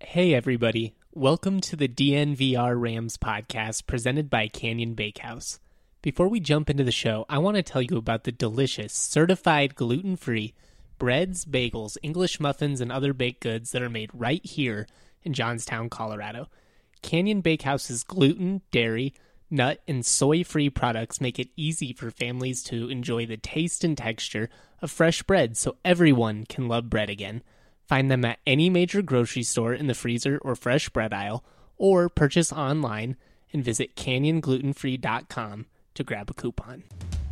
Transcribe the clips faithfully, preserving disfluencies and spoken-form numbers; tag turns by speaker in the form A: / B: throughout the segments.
A: Hey everybody, welcome to the D N V R Rams podcast presented by Canyon Bakehouse. Before we jump into the show, I want to tell you about the delicious, certified gluten-free breads, bagels, English muffins, and other baked goods that are made right here in Johnstown, Colorado. Canyon Bakehouse's gluten, dairy, nut, and soy-free products make it easy for families to enjoy the taste and texture of fresh bread so everyone can love bread again. Find them at any major grocery store in the freezer or fresh bread aisle, or purchase online and visit canyon gluten free dot com to grab a coupon.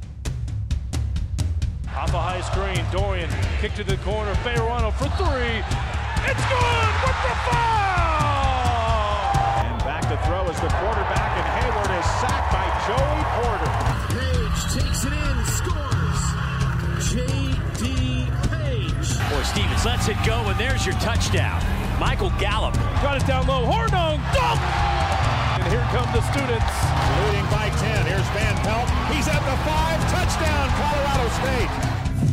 B: Off a high screen, Dorian, kick to the corner, Fayerano for three. It's good with the foul! And back to throw is the quarterback, and Hayward is sacked by Joey Porter.
C: Page takes it in, scores. J D
D: Or Stevens lets it go, and there's your touchdown. Michael Gallup.
B: Got it down low. Hornung, dunk! And here come the students.
E: Leading by ten. Here's Van Pelt. He's at the five. Touchdown, Colorado State.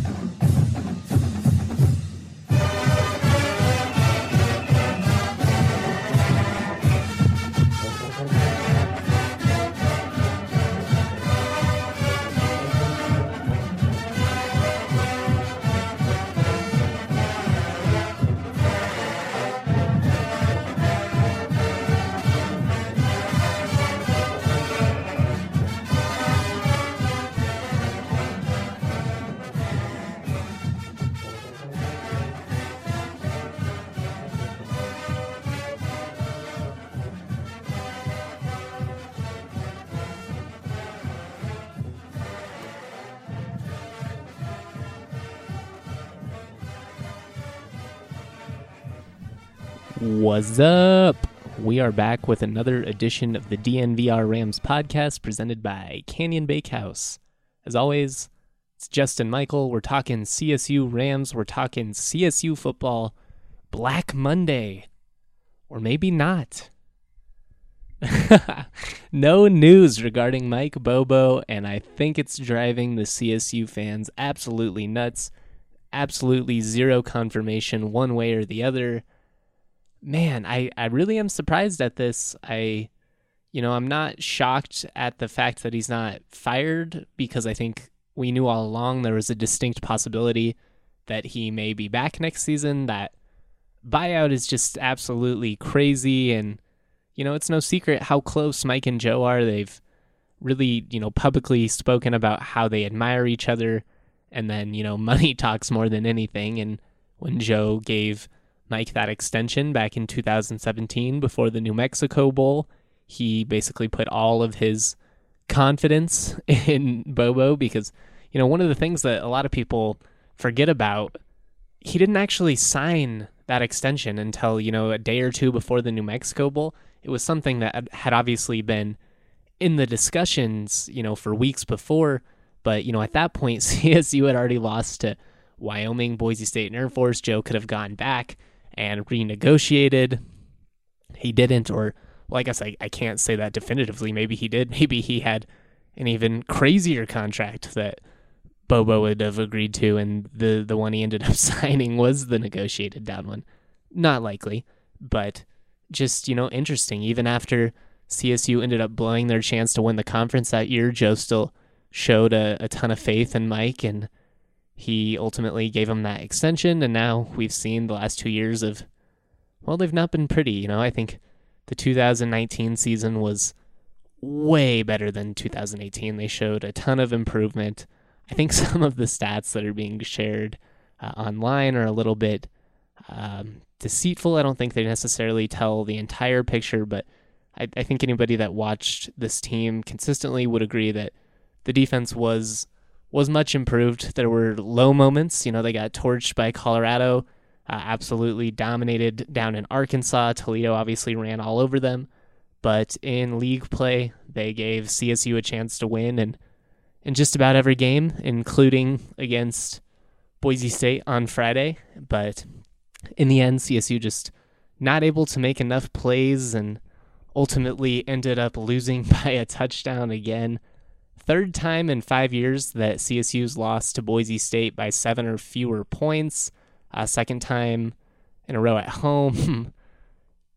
A: What's up? We are back with another edition of the D N V R Rams podcast presented by Canyon Bakehouse. As always, it's Justin Michael. We're talking C S U Rams. We're talking C S U football. Black Monday. Or maybe not. No news regarding Mike Bobo, and I think it's driving the C S U fans absolutely nuts. Absolutely zero confirmation one way or the other. Man, I, I really am surprised at this. I, you know, I'm not shocked at the fact that he's not fired because I think we knew all along there was a distinct possibility that he may be back next season. That buyout is just absolutely crazy. And, you know, it's no secret how close Mike and Joe are. They've really, you know, publicly spoken about how they admire each other. And then, you know, money talks more than anything. And when Joe gave Mike that extension back in two thousand seventeen before the New Mexico Bowl, he basically put all of his confidence in Bobo because, you know, one of the things that a lot of people forget about, he didn't actually sign that extension until, you know, a day or two before the New Mexico Bowl. It was something that had obviously been in the discussions, you know, for weeks before, but, you know, at that point, C S U had already lost to Wyoming, Boise State, and Air Force. Joe could have gone back and renegotiated. He didn't, or, well, I guess I, I can't say that definitively. Maybe he did. Maybe he had an even crazier contract that Bobo would have agreed to, and the, the one he ended up signing was the negotiated down one. Not likely, but just, you know, interesting. Even after C S U ended up blowing their chance to win the conference that year, Joe still showed a, a ton of faith in Mike, and he ultimately gave him that extension, and now we've seen the last two years of, well, they've not been pretty. You know, I think the two thousand nineteen season was way better than two thousand eighteen. They showed a ton of improvement. I think some of the stats that are being shared uh, online are a little bit um, deceitful. I don't think they necessarily tell the entire picture, but I, I think anybody that watched this team consistently would agree that the defense was was much improved. There were low moments. You know, they got torched by Colorado, uh, absolutely dominated down in Arkansas. Toledo obviously ran all over them. But in league play, they gave C S U a chance to win and in just about every game, including against Boise State on Friday. But in the end, C S U just not able to make enough plays and ultimately ended up losing by a touchdown again. Third time in five years that C S U's lost to Boise State by seven or fewer points. Uh, second time in a row at home.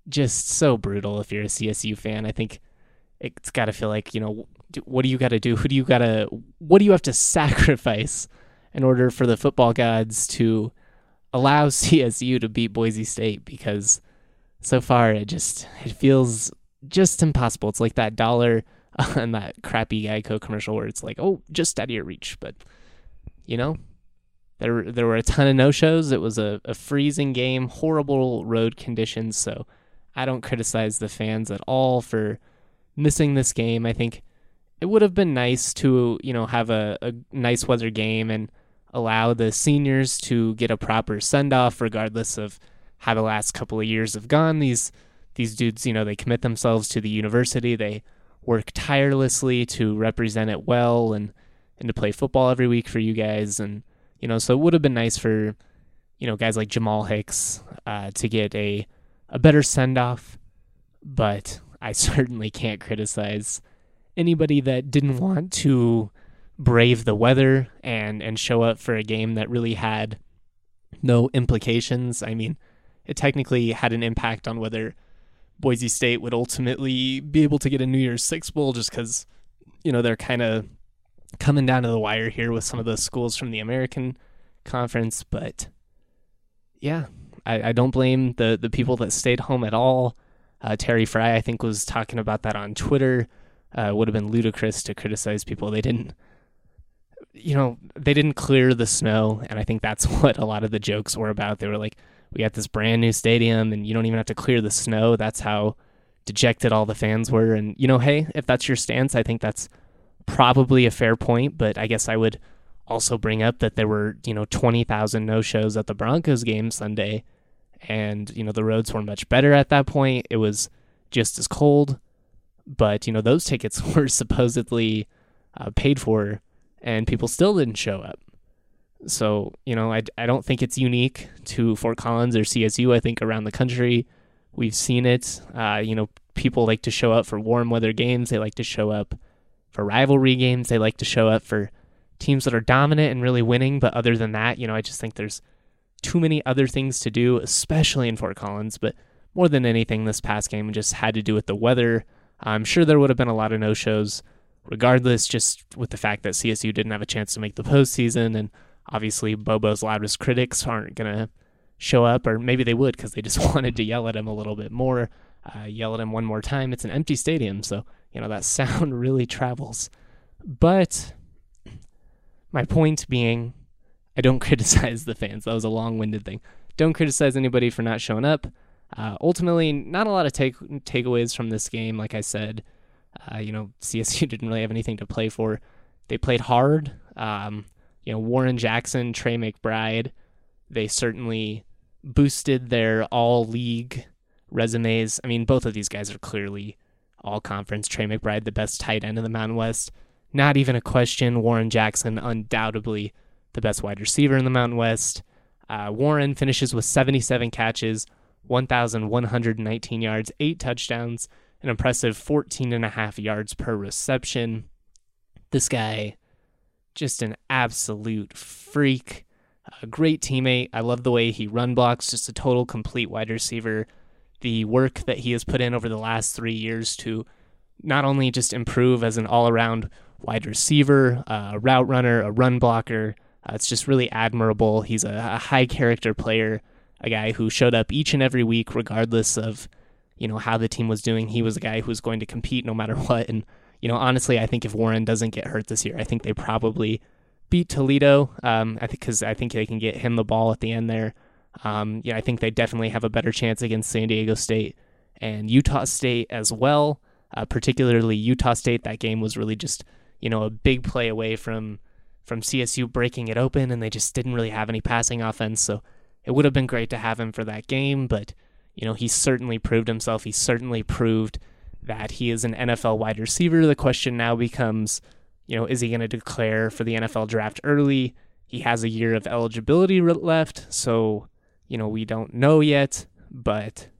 A: just so brutal if you're a C S U fan. I think it's got to feel like, you know, what do you got to do? Who do you got to, what do you have to sacrifice in order for the football gods to allow C S U to beat Boise State? Because so far it just, it feels just impossible. It's like that dollar on that crappy Geico commercial where it's like, oh, just out of your reach. But, you know, there, there were a ton of no-shows. It was a, a freezing game, horrible road conditions. So I don't criticize the fans at all for missing this game. I think it would have been nice to, you know, have a, a nice weather game and allow the seniors to get a proper send-off regardless of how the last couple of years have gone. These these dudes, you know, they commit themselves to the university. They work tirelessly to represent it well and, and to play football every week for you guys. And, you know, so it would have been nice for, you know, guys like Jamal Hicks uh, to get a, a better send-off. But I certainly can't criticize anybody that didn't want to brave the weather and, and show up for a game that really had no implications. I mean, it technically had an impact on whether Boise State would ultimately be able to get a New Year's Six Bowl just because, you know, they're kind of coming down to the wire here with some of those schools from the American Conference. But, yeah, I, I don't blame the, the people that stayed home at all. Uh, Terry Fry, I think, was talking about that on Twitter. Uh, it would have been ludicrous to criticize people. They didn't, you know, they didn't clear the snow, and I think that's what a lot of the jokes were about. They were like, we got this brand new stadium, and you don't even have to clear the snow. That's how dejected all the fans were. And, you know, hey, if that's your stance, I think that's probably a fair point, but I guess I would also bring up that there were, you know, twenty thousand no-shows at the Broncos game Sunday, and, you know, the roads were much better at that point. It was just as cold, but, you know, those tickets were supposedly uh, paid for, and people still didn't show up. So, you know, I, I don't think it's unique to Fort Collins or C S U. I think around the country we've seen it. Uh, you know, people like to show up for warm weather games. They like to show up for rivalry games. They like to show up for teams that are dominant and really winning. But other than that, you know, I just think there's too many other things to do, especially in Fort Collins. But more than anything, this past game just had to do with the weather. I'm sure there would have been a lot of no-shows regardless, just with the fact that C S U didn't have a chance to make the postseason, and obviously Bobo's loudest critics aren't going to show up, or maybe they would because they just wanted to yell at him a little bit more, uh, yell at him one more time. It's an empty stadium, so, you know, that sound really travels. But my point being, I don't criticize the fans. That was a long-winded thing. Don't criticize anybody for not showing up. Uh, ultimately, not a lot of take takeaways from this game. Like I said, uh, you know, C S U didn't really have anything to play for. They played hard. Um, you know, Warren Jackson, Trey McBride, they certainly boosted their all-league resumes. I mean, both of these guys are clearly all-conference. Trey McBride, the best tight end in the Mountain West. Not even a question. Warren Jackson, undoubtedly the best wide receiver in the Mountain West. Uh, Warren finishes with seventy-seven catches, one thousand one hundred nineteen yards, eight touchdowns, an impressive fourteen and a half yards per reception. This guy, just an absolute freak, a great teammate. I love the way he run blocks, just a total complete wide receiver. The work that he has put in over the last three years to not only just improve as an all-around wide receiver, uh, a route runner, a run blocker, uh, it's just really admirable. He's a, a high-character player, a guy who showed up each and every week regardless of, you know, how the team was doing. He was a guy who was going to compete no matter what. And, you know, honestly, I think if Warren doesn't get hurt this year, I think they probably beat Toledo. Um, I think because I think they can get him the ball at the end there. Um, yeah, I think they definitely have a better chance against San Diego State and Utah State as well. Uh, particularly Utah State. That game was really just, you know, a big play away from from C S U breaking it open, and they just didn't really have any passing offense. So it would have been great to have him for that game, but, you know, he certainly proved himself. He certainly proved that he is an N F L wide receiver. The question now becomes, you know, is he going to declare for the N F L draft early? He has a year of eligibility left, so, you know, we don't know yet, but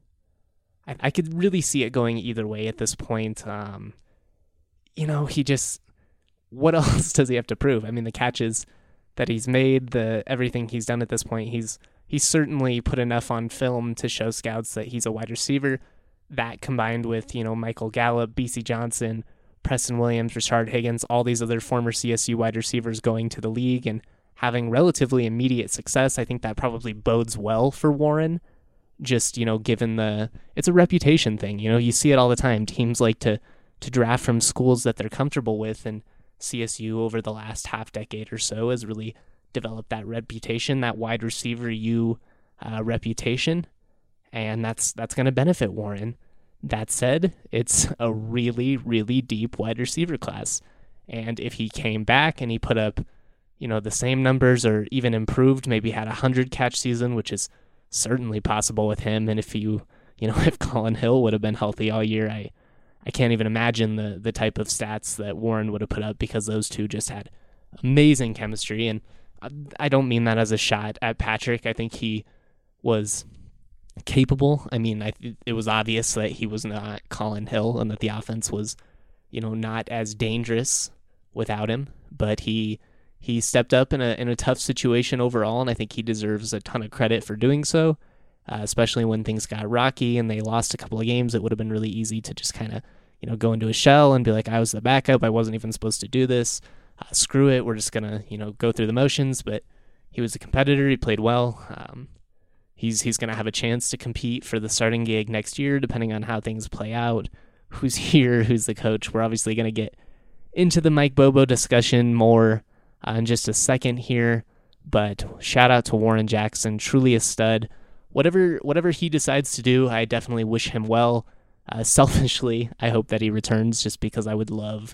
A: I, I could really see it going either way at this point. Um, you know, he just, what else does he have to prove? I mean, the catches that he's made, the everything he's done at this point, he's he's certainly put enough on film to show scouts that he's a wide receiver. that combined with, you know, Michael Gallup, B C Johnson, Preston Williams, Rashard Higgins, all these other former C S U wide receivers going to the league and having relatively immediate success, I think that probably bodes well for Warren. Just, you know, given the, it's a reputation thing. You know, you see it all the time. Teams like to to draft from schools that they're comfortable with, and C S U over the last half decade or so has really developed that reputation, that wide receiver U uh, reputation, and that's that's going to benefit Warren. That said, it's a really, really deep wide receiver class, and if he came back and he put up, you know, the same numbers or even improved, maybe had a hundred catch season, which is certainly possible with him, and if you, you know, if Colin Hill would have been healthy all year, I I can't even imagine the the type of stats that Warren would have put up, because those two just had amazing chemistry. And I don't mean that as a shot at Patrick. I think he was capable. I mean, I it was obvious that he was not Colin Hill and that the offense was, you know, not as dangerous without him. But he he stepped up in a in a tough situation overall, and I think he deserves a ton of credit for doing so. Uh, especially when things got rocky and they lost a couple of games, it would have been really easy to just kind of, you know, go into a shell and be like, I was the backup, I wasn't even supposed to do this. Uh, screw it, we're just gonna, you know, go through the motions. But he was a competitor. He played well. Um, he's he's gonna have a chance to compete for the starting gig next year, depending on how things play out. Who's here? Who's the coach? We're obviously gonna get into the Mike Bobo discussion more uh, in just a second here. But shout out to Warren Jackson, truly a stud. Whatever whatever he decides to do, I definitely wish him well. Uh, selfishly, I hope that he returns, just because I would love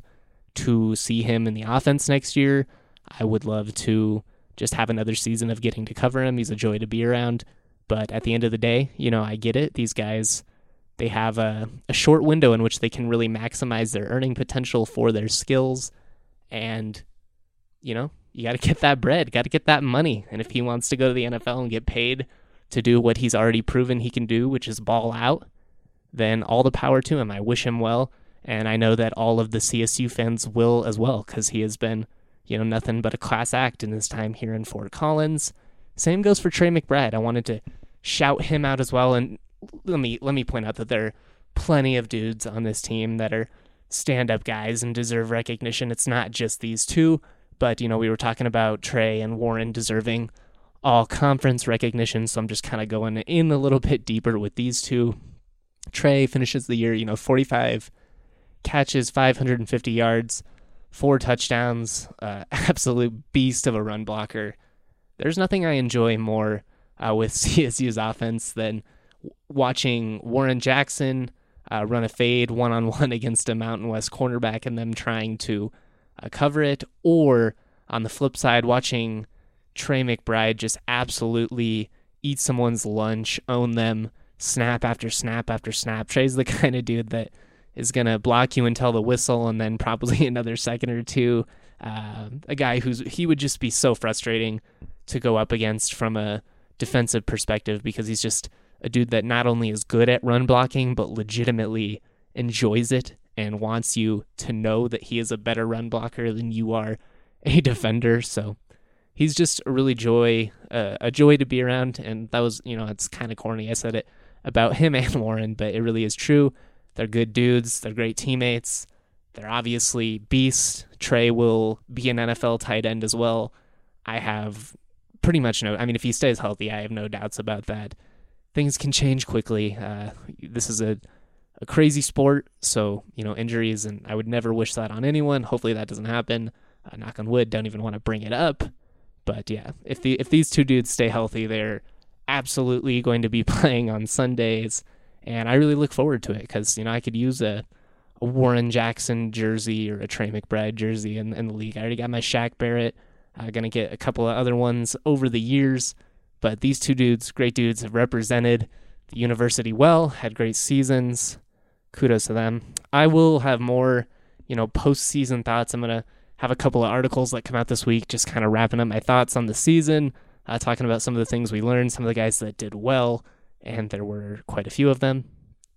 A: to see him in the offense next year. I would love to just have another season of getting to cover him. He's a joy to be around. But at the end of the day, you know, I get it. These guys, they have a, a short window in which they can really maximize their earning potential for their skills. And, you know, you got to get that bread, got to get that money. And if he wants to go to the N F L and get paid to do what he's already proven he can do, which is ball out, then all the power to him. I wish him well, and I know that all of the C S U fans will as well, because he has been, you know, nothing but a class act in his time here in Fort Collins. Same goes for Trey McBride. I wanted to shout him out as well, and let me let me point out that there are plenty of dudes on this team that are stand-up guys and deserve recognition. It's not just these two, but, you know, we were talking about Trey and Warren deserving all conference recognition, so I'm just kind of going in a little bit deeper with these two. Trey finishes the year, you know, forty-five catches, five hundred fifty yards, four touchdowns, uh, absolute beast of a run blocker. There's nothing I enjoy more uh, with C S U's offense than watching Warren Jackson uh, run a fade one-on-one against a Mountain West cornerback and them trying to uh, cover it, or on the flip side, watching Trey McBride just absolutely eat someone's lunch, own them, snap after snap after snap. Trey's the kind of dude that is going to block you until the whistle and then probably another second or two. Uh, a guy who's he would just be so frustrating to go up against from a defensive perspective, because he's just a dude that not only is good at run blocking, but legitimately enjoys it and wants you to know that he is a better run blocker than you are a defender. So he's just a really joy, uh, a joy to be around. And that was, you know, it's kind of corny. I said it about him and Warren, but it really is true. They're good dudes. They're great teammates. They're obviously beasts. Trey will be an N F L tight end as well. I have pretty much no, I mean, if he stays healthy, I have no doubts about that. Things can change quickly. Uh, this is a, a crazy sport, so, you know, injuries, and I would never wish that on anyone. Hopefully that doesn't happen. Uh, knock on wood, don't even want to bring it up. But yeah, if the if these two dudes stay healthy, they're absolutely going to be playing on Sundays, and I really look forward to it, because, you know, I could use a, a Warren Jackson jersey or a Trey McBride jersey in, in the league. I already got my Shaq Barrett. I'm going to get a couple of other ones over the years, but these two dudes, great dudes, have represented the university well, had great seasons. Kudos to them. I will have more, you know, post-season thoughts. I'm going to have a couple of articles that come out this week, just kind of wrapping up my thoughts on the season, uh, talking about some of the things we learned, some of the guys that did well, and there were quite a few of them.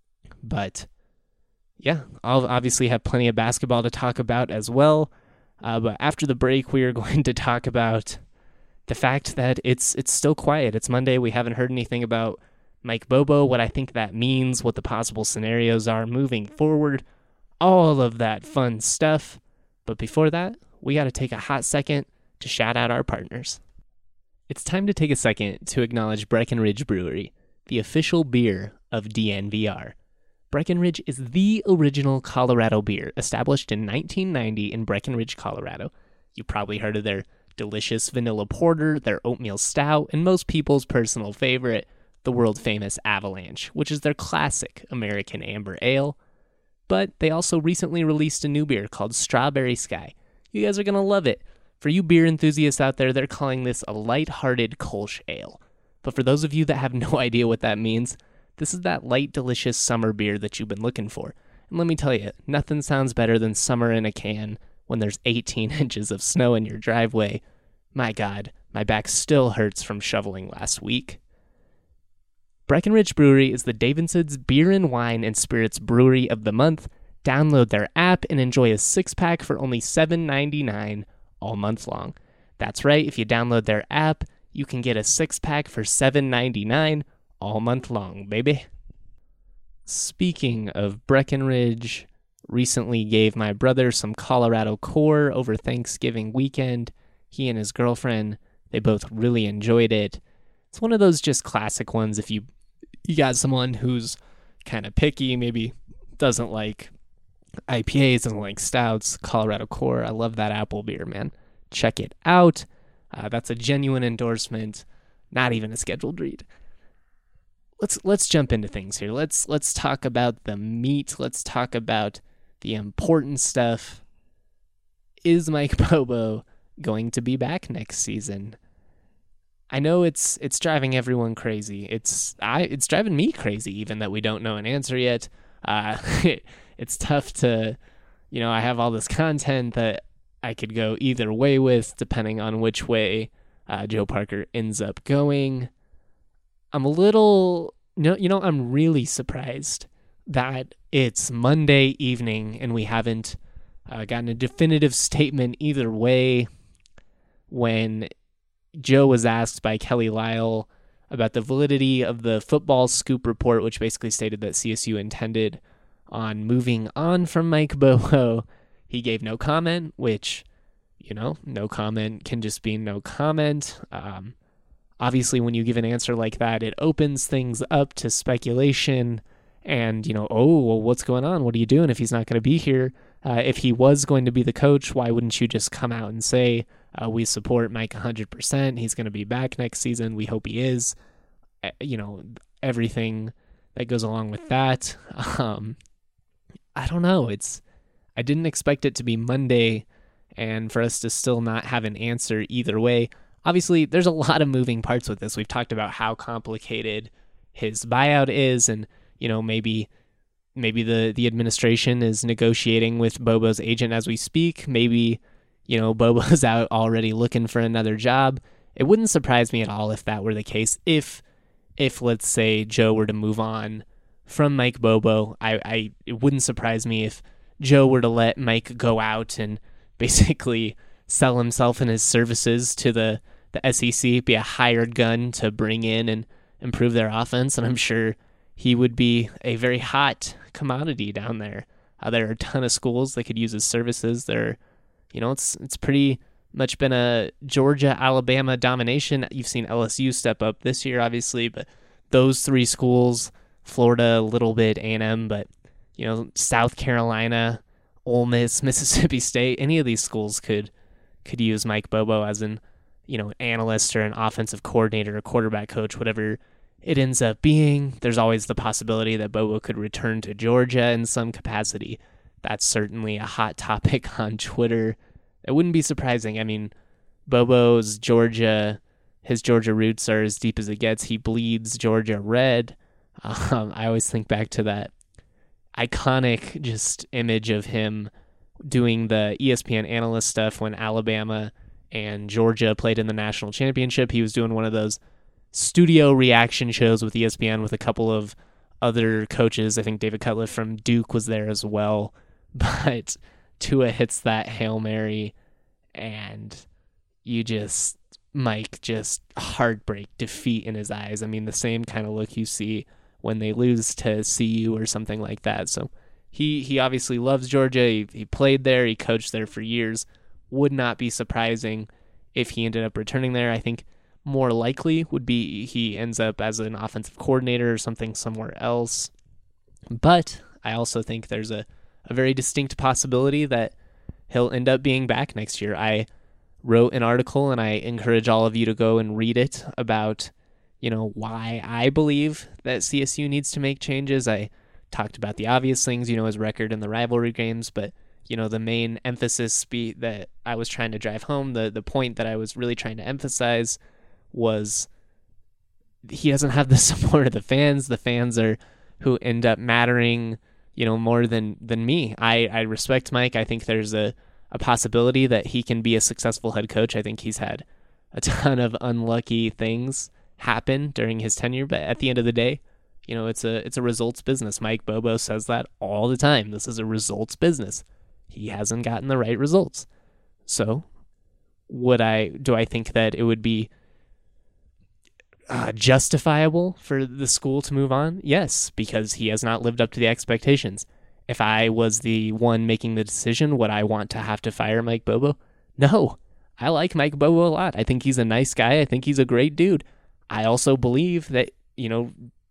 A: But yeah, I'll obviously have plenty of basketball to talk about as well. Uh, but after the break, we are going to talk about the fact that it's it's still quiet. It's Monday. We haven't heard anything about Mike Bobo, what I think that means, what the possible scenarios are moving forward, all of that fun stuff. But before that, we got to take a hot second to shout out our partners. It's time to take a second to acknowledge Breckenridge Brewery, the official beer of D N V R. Breckenridge is the original Colorado beer, established in nineteen ninety in Breckenridge, Colorado. You've probably heard of their delicious vanilla porter, their oatmeal stout, and most people's personal favorite, the world-famous Avalanche, which is their classic American amber ale. But they also recently released a new beer called Strawberry Sky. You guys are going to love it. For you beer enthusiasts out there, they're calling this a light-hearted Kolsch ale. But for those of you that have no idea what that means, this is that light, delicious summer beer that you've been looking for. And let me tell you, nothing sounds better than summer in a can when there's eighteen inches of snow in your driveway. My God, my back still hurts from shoveling last week. Breckenridge Brewery is the Davidson's Beer and Wine and Spirits Brewery of the Month. Download their app and enjoy a six-pack for only seven ninety-nine all month long. That's right, if you download their app, you can get a six-pack for seven ninety-nine all month long, baby. Speaking of Breckenridge, recently gave my brother some Colorado Core over Thanksgiving weekend. He and his girlfriend, they both really enjoyed it. It's one of those just classic ones if you you got someone who's kind of picky, maybe doesn't like I P As, doesn't like stouts. Colorado Core, I love that apple beer, man. Check it out. Uh, that's a genuine endorsement, not even a scheduled read. Let's let's jump into things here. Let's let's talk about the meat. Let's talk about the important stuff. Is Mike Bobo going to be back next season? I know it's it's driving everyone crazy. It's I it's driving me crazy even that we don't know an answer yet. Uh, it, it's tough to, you know, I have all this content that I could go either way with depending on which way uh, Joe Parker ends up going. I'm a little, no, you know, I'm really surprised that it's Monday evening and we haven't uh, gotten a definitive statement either way. When Joe was asked by Kelly Lyle about the validity of the football scoop report, which basically stated that C S U intended on moving on from Mike Bobo, he gave no comment, which, you know, no comment can just be no comment. Um, obviously, when you give an answer like that, it opens things up to speculation and, you know, oh, well, what's going on? What are you doing if he's not going to be here? Uh, if he was going to be the coach, why wouldn't you just come out and say, uh, we support Mike one hundred percent. He's going to be back next season. We hope he is. Uh, you know, everything that goes along with that. Um, I don't know. It's, I didn't expect it to be Monday and for us to still not have an answer either way. Obviously, there's a lot of moving parts with this. We've talked about how complicated his buyout is, and, you know, maybe maybe the, the administration is negotiating with Bobo's agent as we speak. Maybe, you know, Bobo's out already looking for another job. It wouldn't surprise me at all if that were the case. If, if let's say, Joe were to move on from Mike Bobo, I, I it wouldn't surprise me if Joe were to let Mike go out and basically sell himself and his services to the, the S E C, be a hired gun to bring in and improve their offense. And I'm sure he would be a very hot commodity down there. Uh, there are a ton of schools that could use his services. There, you know, it's it's pretty much been a Georgia, Alabama domination. You've seen L S U step up this year, obviously, but those three schools, Florida a little bit, A and M, but, you know, South Carolina, Ole Miss, Mississippi State, any of these schools could could use Mike Bobo as an, you know, analyst or an offensive coordinator, a quarterback coach, whatever it ends up being. There's always the possibility that Bobo could return to Georgia in some capacity. That's certainly a hot topic on Twitter. It wouldn't be surprising. I mean, Bobo's Georgia, his Georgia roots are as deep as it gets. He bleeds Georgia red. Um, I always think back to that iconic just image of him doing the E S P N analyst stuff when Alabama and Georgia played in the national championship. He was doing one of those studio reaction shows with E S P N with a couple of other coaches. I think David Cutcliffe from Duke was there as well. But Tua hits that Hail Mary, and you just, Mike just heartbreak, defeat in his eyes. I mean, the same kind of look you see when they lose to C U or something like that. So he, he obviously loves Georgia. He, he played there. He coached there for years. Would not be surprising if he ended up returning there. I think more likely would be he ends up as an offensive coordinator or something somewhere else. But I also think there's a, a very distinct possibility that he'll end up being back next year. I wrote an article, and I encourage all of you to go and read it, about, you know, why I believe that C S U needs to make changes. I talked about the obvious things, you know, his record in the rivalry games, but, you know, the main emphasis be that I was trying to drive home, the, the point that I was really trying to emphasize was he doesn't have the support of the fans. The fans are who end up mattering, you know, more than, than me. I, I respect Mike. I think there's a, a possibility that he can be a successful head coach. I think he's had a ton of unlucky things happen during his tenure, but at the end of the day, you know, it's a it's a results business. Mike Bobo says that all the time. This is a results business. He hasn't gotten the right results. So, would I do I think that it would be uh, justifiable for the school to move on? Yes, because he has not lived up to the expectations. If I was the one making the decision, would I want to have to fire Mike Bobo? No. I like Mike Bobo a lot. I think he's a nice guy. I think he's a great dude. I also believe that, you know,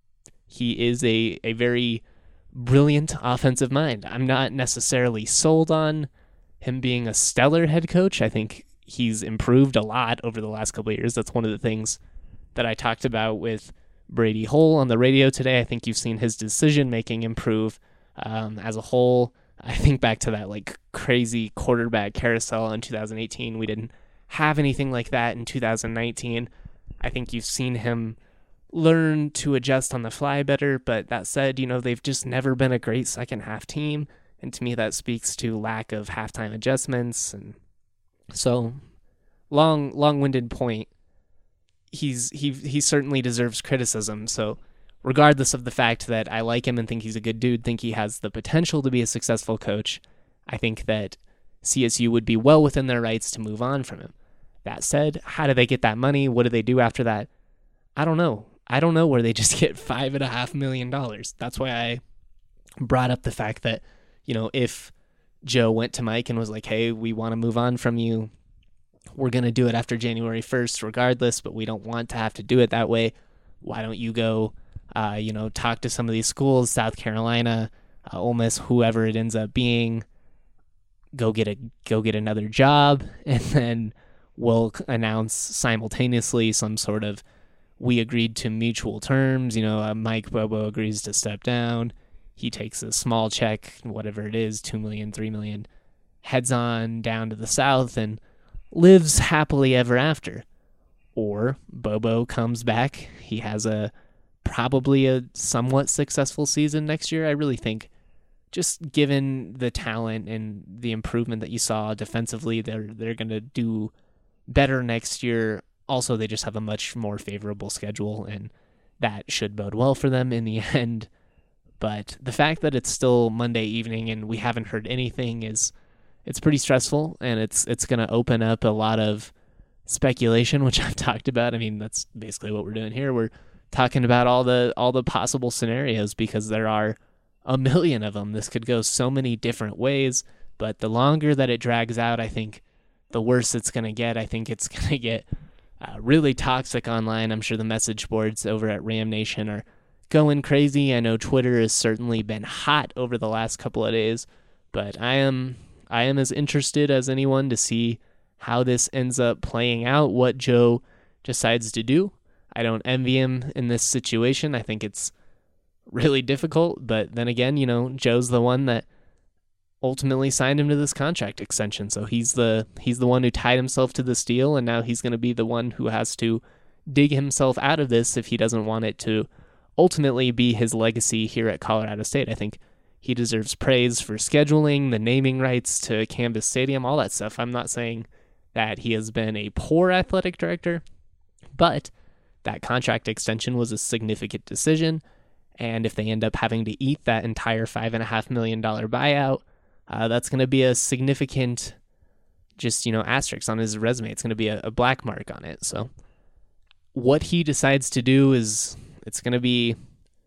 A: he is a, a very brilliant offensive mind. I'm not necessarily sold on him being a stellar head coach. I think he's improved a lot over the last couple of years. That's one of the things that I talked about with Brady Hole on the radio today. I think you've seen his decision-making improve um, as a whole. I think back to that like crazy quarterback carousel in two thousand eighteen. We didn't have anything like that in two thousand nineteen. I think you've seen him learn to adjust on the fly better, but that said, you know, they've just never been a great second half team, and to me that speaks to lack of halftime adjustments. And so, long long-winded point, he's he he certainly deserves criticism. So regardless of the fact that I like him and think he's a good dude, think he has the potential to be a successful coach, I think that C S U would be well within their rights to move on from him. That said, how do they get that money? What do they do after that? I don't know. I don't know where they just get five and a half million dollars. That's why I brought up the fact that, you know, if Joe went to Mike and was like, hey, we want to move on from you, we're going to do it after January first regardless, but we don't want to have to do it that way. Why don't you go, uh, you know, talk to some of these schools, South Carolina, uh, Ole Miss, whoever it ends up being, go get a go get another job, and then we'll announce simultaneously some sort of we agreed to mutual terms. You know, uh, Mike Bobo agrees to step down. He takes a small check, whatever it is, two million dollars, three million dollars, heads on down to the South and lives happily ever after. Or Bobo comes back. He has a probably a somewhat successful season next year. I really think, just given the talent and the improvement that you saw defensively, they're they're going to do better next year. Also, they just have a much more favorable schedule, and that should bode well for them in the end. But the fact that it's still Monday evening and we haven't heard anything is it's pretty stressful, and it's it's going to open up a lot of speculation, which I've talked about. I mean, that's basically what we're doing here. We're talking about all the all the possible scenarios because there are a million of them. This could go so many different ways, but the longer that it drags out, I think the worse it's going to get. I think it's going to get uh, really toxic online. I'm sure the message boards over at Ram Nation are going crazy. I know Twitter has certainly been hot over the last couple of days, but I am I am as interested as anyone to see how this ends up playing out, what Joe decides to do. I don't envy him in this situation. I think it's really difficult, but then again, you know, Joe's the one that ultimately signed him to this contract extension, so he's the he's the one who tied himself to this deal, and now he's going to be the one who has to dig himself out of this if he doesn't want it to ultimately be his legacy here at Colorado State. I think he deserves praise for scheduling, the naming rights to Canvas Stadium, all that stuff. I'm not saying that he has been a poor athletic director, but that contract extension was a significant decision, and if they end up having to eat that entire five and a half million dollar buyout, uh, that's going to be a significant just, you know, asterisks on his resume. It's going to be a, a black mark on it. So what he decides to do is, it's going to be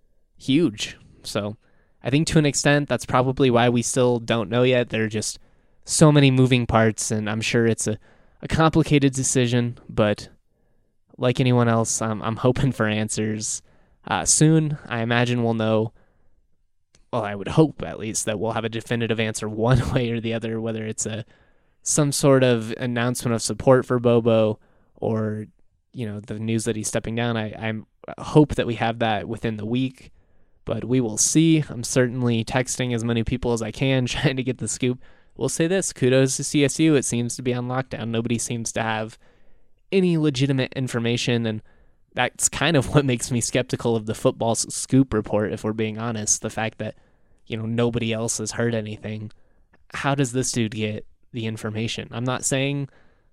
A: huge. So I think to an extent, that's probably why we still don't know yet. There are just so many moving parts, and I'm sure it's a, a complicated decision, but like anyone else, I'm, I'm hoping for answers uh, soon. I imagine we'll know, well, I would hope at least that we'll have a definitive answer one way or the other, whether it's a some sort of announcement of support for Bobo or, you know, the news that he's stepping down. I I'm, hope that we have that within the week, but we will see. I'm certainly texting as many people as I can, trying to get the scoop. We'll say this, kudos to C S U. It seems to be on lockdown. Nobody seems to have any legitimate information, and that's kind of what makes me skeptical of the football scoop report, if we're being honest. The fact that, you know, nobody else has heard anything. How does this dude get the information? I'm not saying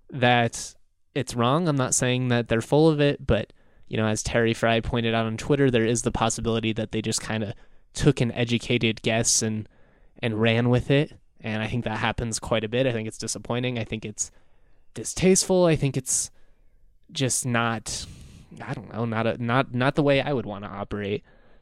A: that it's wrong. I'm not saying that they're full of it, but, you know, as Terry Fry pointed out on Twitter, there is the possibility that they just kind of took an educated guess and and ran with it. And I think that happens quite a bit. I think it's disappointing. I think it's distasteful. I think it's just not, I don't know, not a, not not the way I would want to operate.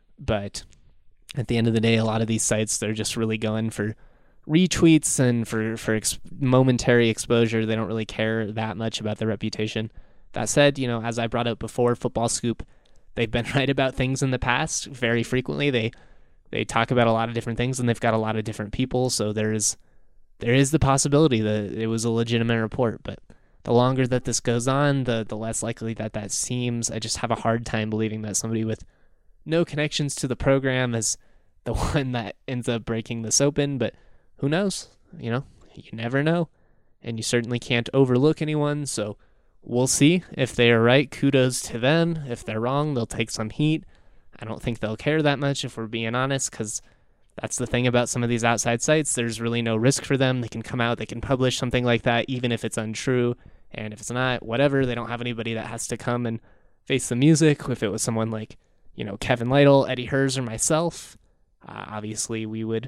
A: But at the end of the day, a lot of these sites, they're just really going for retweets and for, for ex- momentary exposure. They don't really care that much about their reputation. That said, you know, as I brought up before, Football Scoop, they've been right about things in the past very frequently. They they talk about a lot of different things, and they've got a lot of different people, so there is there is the possibility that it was a legitimate report. But the longer that this goes on, the the less likely that that seems. I just have a hard time believing that somebody with no connections to the program is the one that ends up breaking this open, but who knows? You know, you never know, and you certainly can't overlook anyone, so we'll see. If they are right, kudos to them. If they're wrong, they'll take some heat. I don't think they'll care that much, if we're being honest, because that's the thing about some of these outside sites. There's really no risk for them. They can come out, they can publish something like that, even if it's untrue, and if it's not, whatever. They don't have anybody that has to come and face the music. If it was someone like, you know, Kevin Lytle, Eddie Herz, or myself, uh, obviously we would,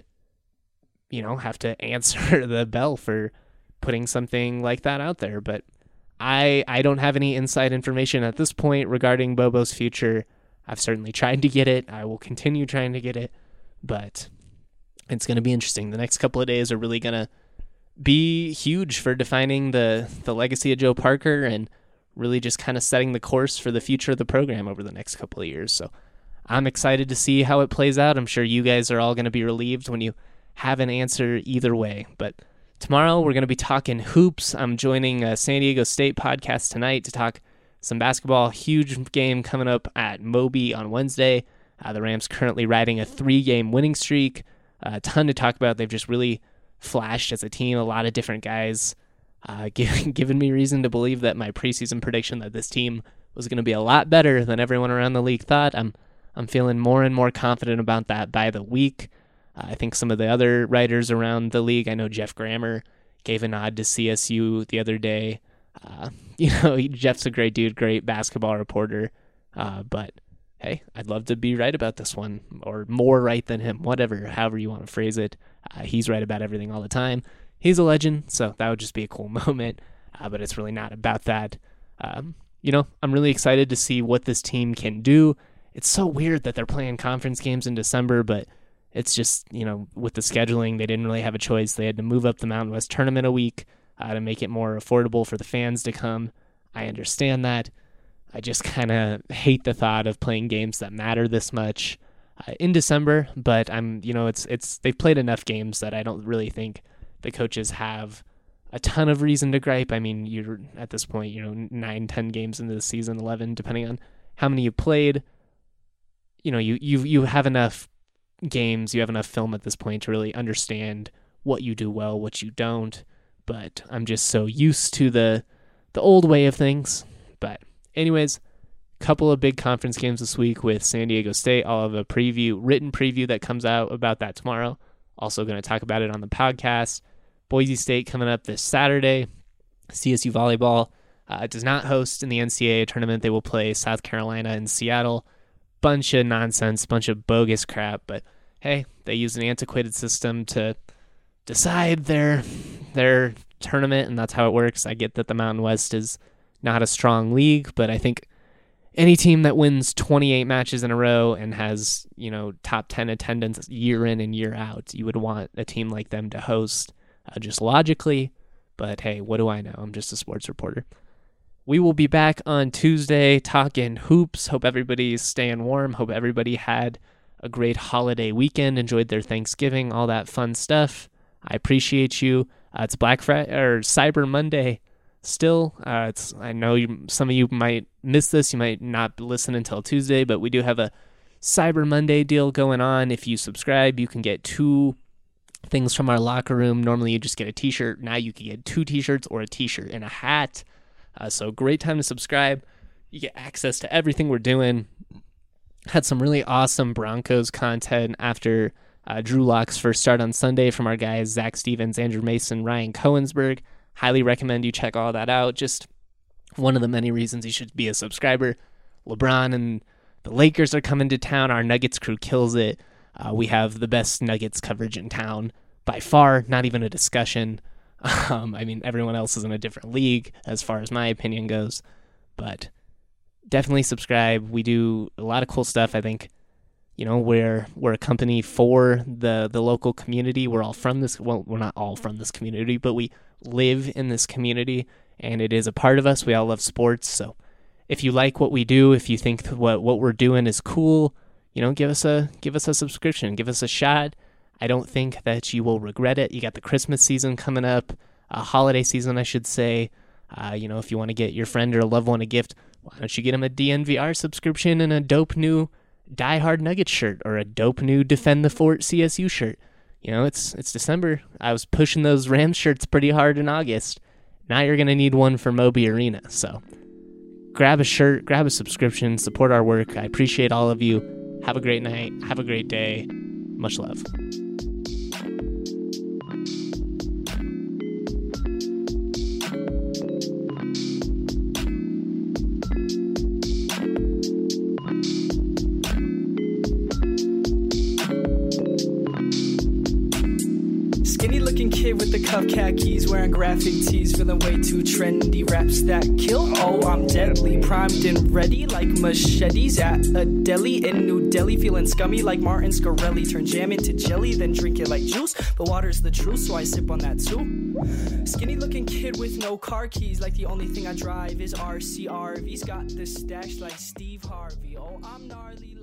A: you know, have to answer the bell for putting something like that out there. But I I don't have any inside information at this point regarding Bobo's future. I've certainly tried to get it. I will continue trying to get it, but it's going to be interesting. The next couple of days are really going to be huge for defining the, the legacy of Joe Parker and really just kind of setting the course for the future of the program over the next couple of years. So I'm excited to see how it plays out. I'm sure you guys are all going to be relieved when you have an answer either way. But tomorrow we're going to be talking hoops. I'm joining a San Diego State podcast tonight to talk some basketball. Huge game coming up at Moby on Wednesday. Uh, the Rams currently riding a three-game winning streak. Uh, a ton to talk about. They've just really flashed as a team. A lot of different guys uh, giving given me reason to believe that my preseason prediction that this team was going to be a lot better than everyone around the league thought. I'm I'm feeling more and more confident about that by the week. Uh, I think some of the other writers around the league, I know Jeff Grammer gave a nod to C S U the other day. Uh, you know, he, Jeff's a great dude, great basketball reporter. Uh, but hey, I'd love to be right about this one, or more right than him, whatever, however you want to phrase it. Uh, he's right about everything all the time. He's a legend, so that would just be a cool moment. Uh, but it's really not about that. Um, you know, I'm really excited to see what this team can do. It's so weird that they're playing conference games in December, but it's just, you know, with the scheduling, they didn't really have a choice. They had to move up the Mountain West tournament a week uh, to make it more affordable for the fans to come. I understand that. I just kind of hate the thought of playing games that matter this much uh, in December, but I'm, you know, it's, it's, they've played enough games that I don't really think the coaches have a ton of reason to gripe. I mean, you're at this point, you know, nine, ten games into the season, eleven, depending on how many you played. You know, you, you, you have enough games, you have enough film at this point to really understand what you do well, what you don't. But I'm just so used to the the old way of things. But anyways, couple of big conference games this week with San Diego State. I'll have a preview, written preview that comes out about that tomorrow. Also going to talk about it on the podcast. Boise State coming up this Saturday. C S U volleyball uh, does not host in the N C double A tournament. They will play South Carolina and Seattle. Bunch of nonsense, bunch of bogus crap. But hey, they use an antiquated system to decide their their tournament, and that's how it works. I get that the Mountain West is not a strong league, but I think any team that wins twenty-eight matches in a row and has, you know, top ten attendance year in and year out, you would want a team like them to host, uh, just logically. But hey, what do I know? I'm just a sports reporter. We will be back on Tuesday talking hoops. Hope everybody's staying warm. Hope everybody had a great holiday weekend, enjoyed their Thanksgiving, all that fun stuff. I appreciate you. Uh, it's Black Friday or Cyber Monday still. Uh, it's I know you, some of you might miss this. You might not listen until Tuesday, but we do have a Cyber Monday deal going on. If you subscribe, you can get two things from our locker room. Normally you just get a t-shirt. Now you can get two t-shirts or a t-shirt and a hat. Uh, so great time to subscribe. You get access to everything we're doing. Had some really awesome Broncos content after uh, Drew Lock's first start on Sunday from our guys Zach Stevens, Andrew Mason, Ryan Cohensberg. Highly recommend you check all that out. Just one of the many reasons you should be a subscriber. LeBron and the Lakers are coming to town. Our Nuggets crew kills it. Uh, we have the best Nuggets coverage in town by far, not even a discussion. Um, I mean, everyone else is in a different league as far as my opinion goes, but definitely subscribe. We do a lot of cool stuff. I think, you know, we're, we're a company for the, the local community. We're all from this. Well, we're not all from this community, but we live in this community and it is a part of us. We all love sports. So if you like what we do, if you think what, what we're doing is cool, you know, give us a give us a subscription, give us a shot. I don't think that you will regret it. You got the Christmas season coming up, a holiday season, I should say. Uh, you know, if you want to get your friend or a loved one a gift, why don't you get them a D N V R subscription and a dope new Die Hard Nuggets shirt or a dope new Defend the Fort C S U shirt? You know, it's it's December. I was pushing those Rams shirts pretty hard in August. Now you're going to need one for Moby Arena. So grab a shirt, grab a subscription, support our work. I appreciate all of you. Have a great night. Have a great day. Much love.
F: Skinny looking kid with the cuff khakis, wearing graphic tees, feeling way too trendy. Raps that kill, oh I'm deadly, primed and ready like machetes at a deli in New Delhi. Feeling scummy like Martin Scarelli, turn jam into jelly, then drink it like juice. But water's the truth, so I sip on that too. Skinny looking kid with no car keys, like the only thing I drive is R C R V's. Got the stash like Steve Harvey, oh I'm gnarly.